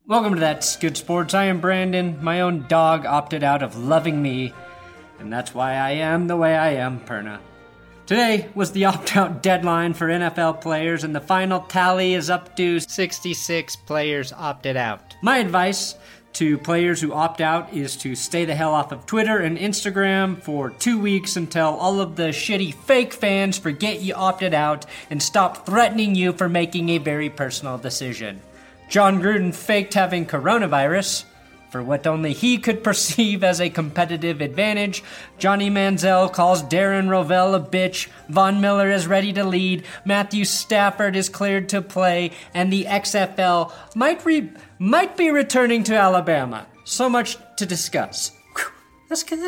Welcome to That's Good Sports. I am Brandon. My own dog opted out of loving me, and that's why I am the way I am, Perna. Today was the opt-out deadline for NFL players, and the final tally is up to 66 players opted out. My advice to players who opt out is to stay the hell off of Twitter and Instagram for 2 weeks until all of the shitty fake fans forget you opted out and stop threatening you for making a very personal decision. Jon Gruden faked having coronavirus for what only he could perceive as a competitive advantage. Johnny Manziel calls Darren Rovell a bitch. Von Miller is ready to lead. Matthew Stafford is cleared to play. And the XFL might be returning to Alabama. So much to discuss. That's good.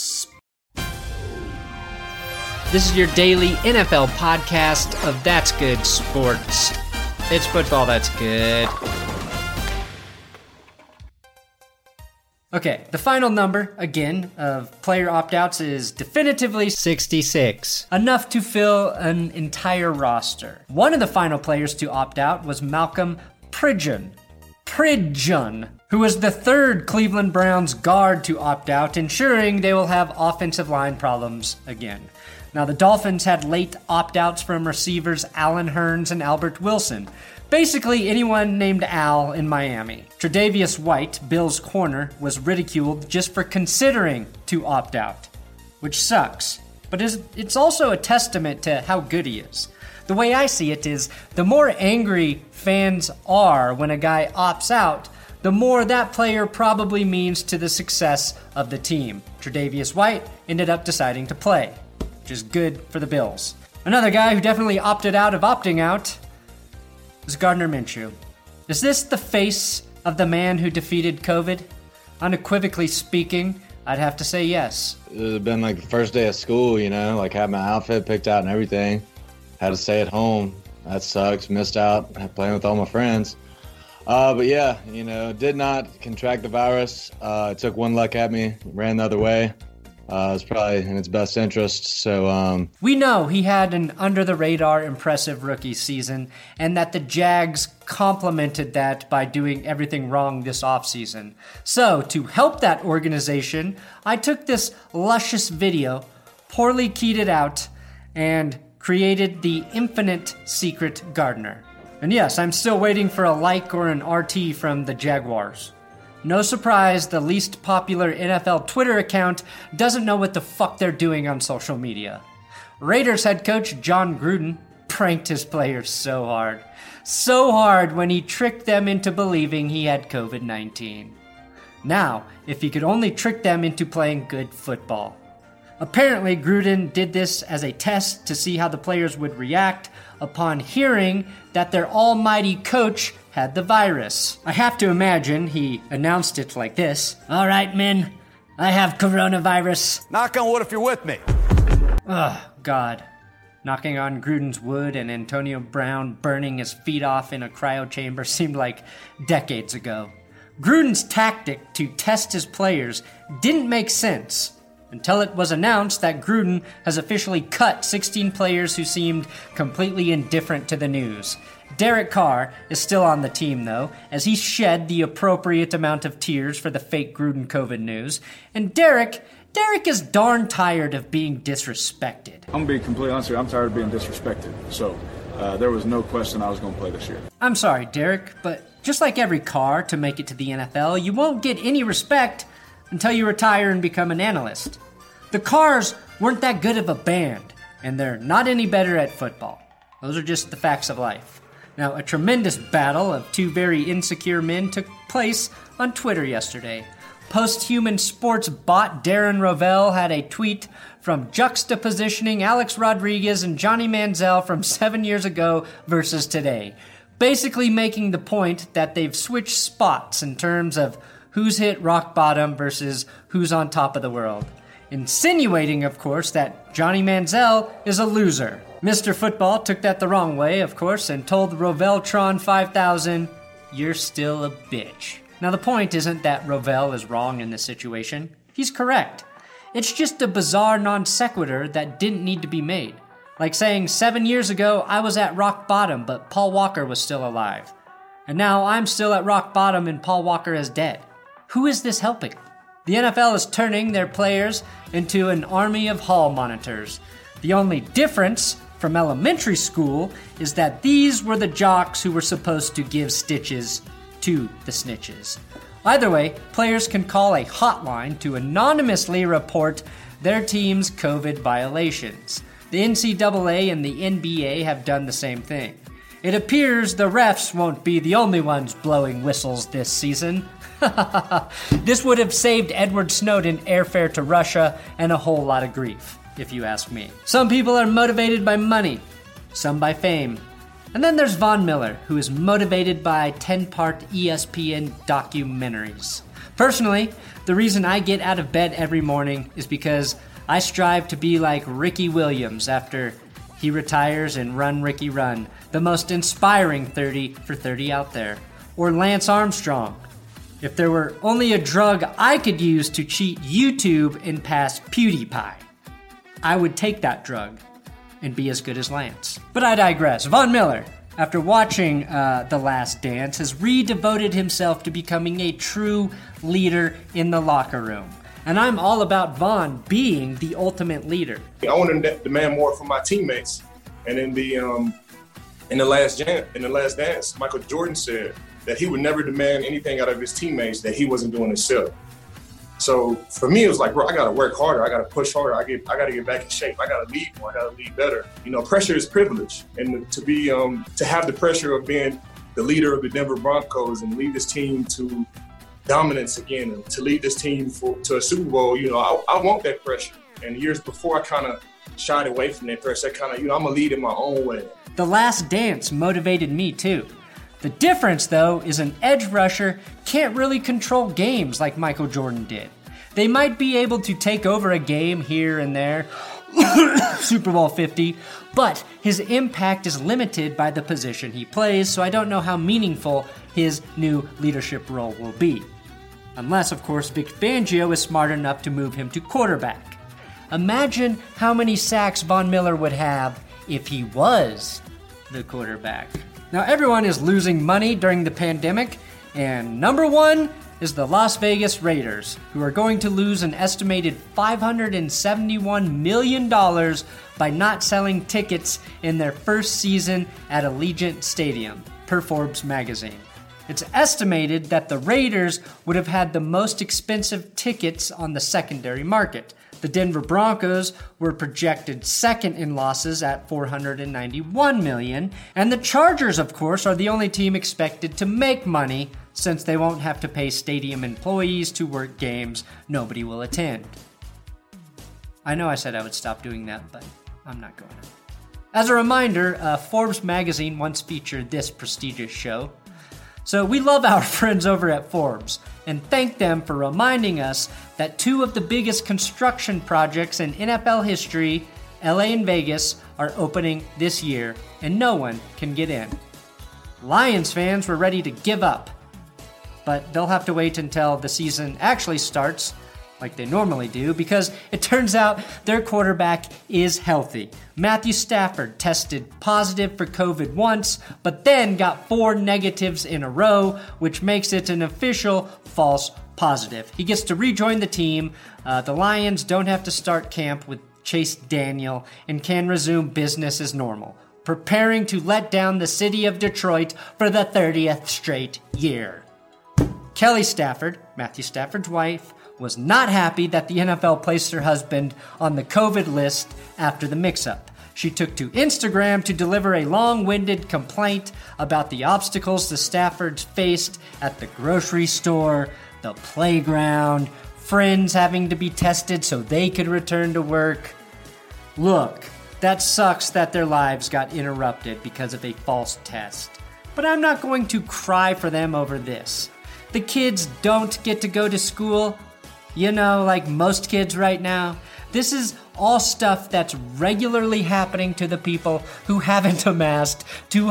This is your daily NFL podcast of That's Good Sports. It's football that's good. Okay, the final number, again, of player opt-outs is definitively 66. Enough to fill an entire roster. One of the final players to opt out was Malcolm Pridgeon, who was the third Cleveland Browns guard to opt out, ensuring they will have offensive line problems again. Now, the Dolphins had late opt-outs from receivers Allen Hurns and Albert Wilson. Basically, anyone named Al in Miami. Tre'Davious White, Bills' corner, was ridiculed just for considering to opt out, which sucks. But it's also a testament to how good he is. The way I see it is, the more angry fans are when a guy opts out, the more that player probably means to the success of the team. Tre'Davious White ended up deciding to play, which is good for the Bills. Another guy who definitely opted out of opting out is Gardner Minshew. Is this the face of the man who defeated COVID? Unequivocally speaking, I'd have to say yes. It would have been like the first day of school, like had my outfit picked out and everything. Had to stay at home. That sucks. Missed out playing with all my friends. But yeah, did not contract the virus. It took one luck at me, ran the other way. It's probably in its best interest, so... We know he had an under-the-radar impressive rookie season, and that the Jags complemented that by doing everything wrong this offseason. So, to help that organization, I took this luscious video, poorly keyed it out, and created the infinite secret Gardner. And yes, I'm still waiting for a like or an RT from the Jaguars. No surprise, the least popular NFL Twitter account doesn't know what the fuck they're doing on social media. Raiders head coach Jon Gruden pranked his players so hard. So hard when he tricked them into believing he had COVID-19. Now, if he could only trick them into playing good football. Apparently, Gruden did this as a test to see how the players would react upon hearing that their almighty coach had the virus. I have to imagine he announced it like this. All right, men, I have coronavirus. Knock on wood if you're with me. Ugh, God. Knocking on Gruden's wood and Antonio Brown burning his feet off in a cryo chamber seemed like decades ago. Gruden's tactic to test his players didn't make sense until it was announced that Gruden has officially cut 16 players who seemed completely indifferent to the news. Derek Carr is still on the team, though, as he shed the appropriate amount of tears for the fake Gruden COVID news. And Derek is darn tired of being disrespected. I'm going to be completely honest with you, I'm tired of being disrespected. So there was no question I was going to play this year. I'm sorry, Derek, but just like every Carr to make it to the NFL, you won't get any respect until you retire and become an analyst. The Carrs weren't that good of a band, and they're not any better at football. Those are just the facts of life. Now, a tremendous battle of two very insecure men took place on Twitter yesterday. Post-human sports bot Darren Rovell had a tweet from juxtapositioning Alex Rodriguez and Johnny Manziel from 7 years ago versus today, basically making the point that they've switched spots in terms of who's hit rock bottom versus who's on top of the world. Insinuating, of course, that Johnny Manziel is a loser. Mr. Football took that the wrong way, of course, and told Roveltron 5000, "You're still a bitch." Now, the point isn't that Rovell is wrong in this situation. He's correct. It's just a bizarre non sequitur that didn't need to be made. Like saying 7 years ago, I was at rock bottom, but Paul Walker was still alive. And now I'm still at rock bottom and Paul Walker is dead. Who is this helping? The NFL is turning their players into an army of hall monitors. The only difference from elementary school is that these were the jocks who were supposed to give stitches to the snitches. Either way, players can call a hotline to anonymously report their team's COVID violations. The NCAA and the NBA have done the same thing. It appears the refs won't be the only ones blowing whistles this season. This would have saved Edward Snowden airfare to Russia and a whole lot of grief, if you ask me. Some people are motivated by money, some by fame. And then there's Von Miller, who is motivated by 10-part ESPN documentaries. Personally, the reason I get out of bed every morning is because I strive to be like Ricky Williams after he retires in Run, Ricky, Run, the most inspiring 30 for 30 out there. Or Lance Armstrong. If there were only a drug I could use to cheat YouTube and pass PewDiePie, I would take that drug and be as good as Lance. But I digress. Von Miller, after watching The Last Dance, has re-devoted himself to becoming a true leader in the locker room. And I'm all about Von being the ultimate leader. I want to demand more from my teammates. And in the last dance, Michael Jordan said that he would never demand anything out of his teammates that he wasn't doing himself. So for me, it was like, bro, I got to work harder. I got to push harder. I got to get back in shape. I got to lead more. I got to lead better. You know, pressure is privilege. And to have the pressure of being the leader of the Denver Broncos and lead this team to dominance again, and to lead this team to a Super Bowl, you know, I want that pressure. And years before, I kind of shied away from that pressure. I kind of, you know, I'm going to lead in my own way. The Last Dance motivated me too. The difference, though, is an edge rusher can't really control games like Michael Jordan did. They might be able to take over a game here and there, Super Bowl 50, but his impact is limited by the position he plays, so I don't know how meaningful his new leadership role will be. Unless, of course, Vic Fangio is smart enough to move him to quarterback. Imagine how many sacks Von Miller would have if he was the quarterback. Now, everyone is losing money during the pandemic, and number one is the Las Vegas Raiders, who are going to lose an estimated $571 million by not selling tickets in their first season at Allegiant Stadium, per Forbes magazine. It's estimated that the Raiders would have had the most expensive tickets on the secondary market. The Denver Broncos were projected second in losses at $491 million, and the Chargers, of course, are the only team expected to make money since they won't have to pay stadium employees to work games nobody will attend. I know I said I would stop doing that, but I'm not going to. As a reminder, Forbes magazine once featured this prestigious show. So we love our friends over at Forbes and thank them for reminding us that two of the biggest construction projects in NFL history, LA and Vegas, are opening this year and no one can get in. Lions fans were ready to give up, but they'll have to wait until the season actually starts, like they normally do, because it turns out their quarterback is healthy. Matthew Stafford tested positive for COVID once, but then got 4 negatives in a row, which makes it an official false positive. He gets to rejoin the team. The Lions don't have to start camp with Chase Daniel and can resume business as normal, preparing to let down the city of Detroit for the 30th straight year. Kelly Stafford, Matthew Stafford's wife, was not happy that the NFL placed her husband on the COVID list after the mix-up. She took to Instagram to deliver a long-winded complaint about the obstacles the Staffords faced at the grocery store, the playground, friends having to be tested so they could return to work. Look, that sucks that their lives got interrupted because of a false test. But I'm not going to cry for them over this. The kids don't get to go to school, you know, like most kids right now. This is all stuff that's regularly happening to the people who haven't amassed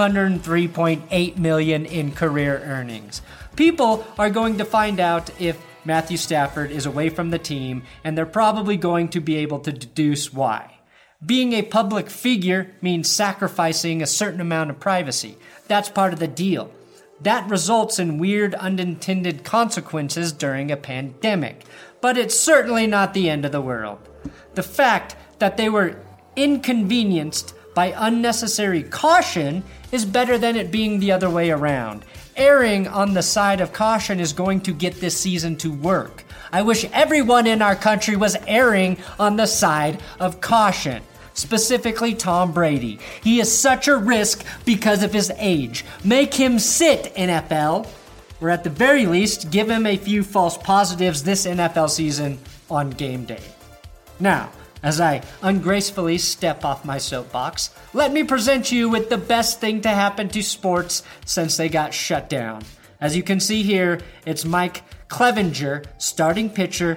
$203.8 million in career earnings. People are going to find out if Matthew Stafford is away from the team, and they're probably going to be able to deduce why. Being a public figure means sacrificing a certain amount of privacy. That's part of the deal. That results in weird unintended consequences during a pandemic, but it's certainly not the end of the world. The fact that they were inconvenienced by unnecessary caution is better than it being the other way around. Erring on the side of caution is going to get this season to work. I wish everyone in our country was erring on the side of caution. Specifically Tom Brady. He is such a risk because of his age. Make him sit, NFL. Or at the very least, give him a few false positives this NFL season on game day. Now, as I ungracefully step off my soapbox, let me present you with the best thing to happen to sports since they got shut down. As you can see here, it's Mike Clevenger, starting pitcher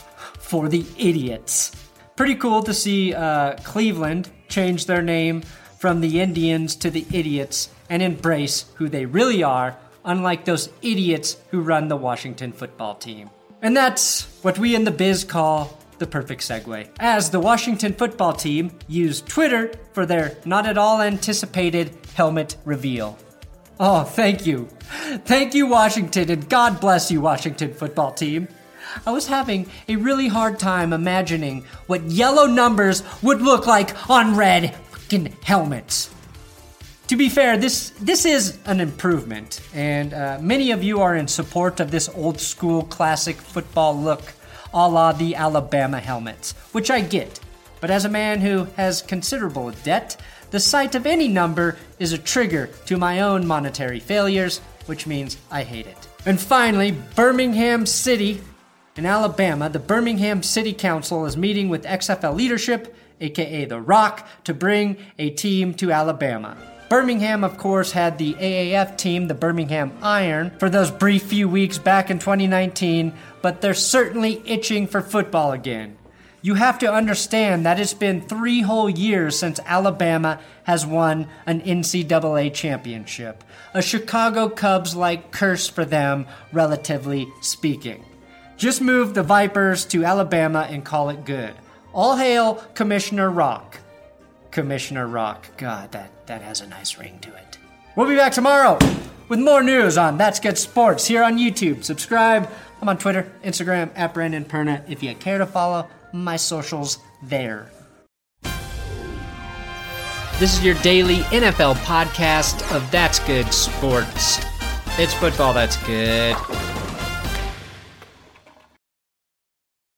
for the Idiots. Pretty cool to see Cleveland change their name from the Indians to the Idiots and embrace who they really are, unlike those idiots who run the Washington football team. And that's what we in the biz call the perfect segue, as the Washington football team used Twitter for their not at all anticipated helmet reveal. Oh, thank you. Thank you, Washington, and God bless you, Washington football team. I was having a really hard time imagining what yellow numbers would look like on red fucking helmets. To be fair, this is an improvement, and many of you are in support of this old school classic football look, a la the Alabama helmets, which I get. But as a man who has considerable debt, the sight of any number is a trigger to my own monetary failures, which means I hate it. And finally, Birmingham City. In Alabama, the Birmingham City Council is meeting with XFL leadership, aka The Rock, to bring a team to Alabama. Birmingham, of course, had the AAF team, the Birmingham Iron, for those brief few weeks back in 2019, but they're certainly itching for football again. You have to understand that it's been 3 whole years since Alabama has won an NCAA championship. A Chicago Cubs-like curse for them, relatively speaking. Just move the Vipers to Alabama and call it good. All hail Commissioner Rock. Commissioner Rock. God, that has a nice ring to it. We'll be back tomorrow with more news on That's Good Sports here on YouTube. Subscribe. I'm on Twitter, Instagram, at Brandon Perna. If you care to follow my socials there. This is your daily NFL podcast of That's Good Sports. It's football that's good.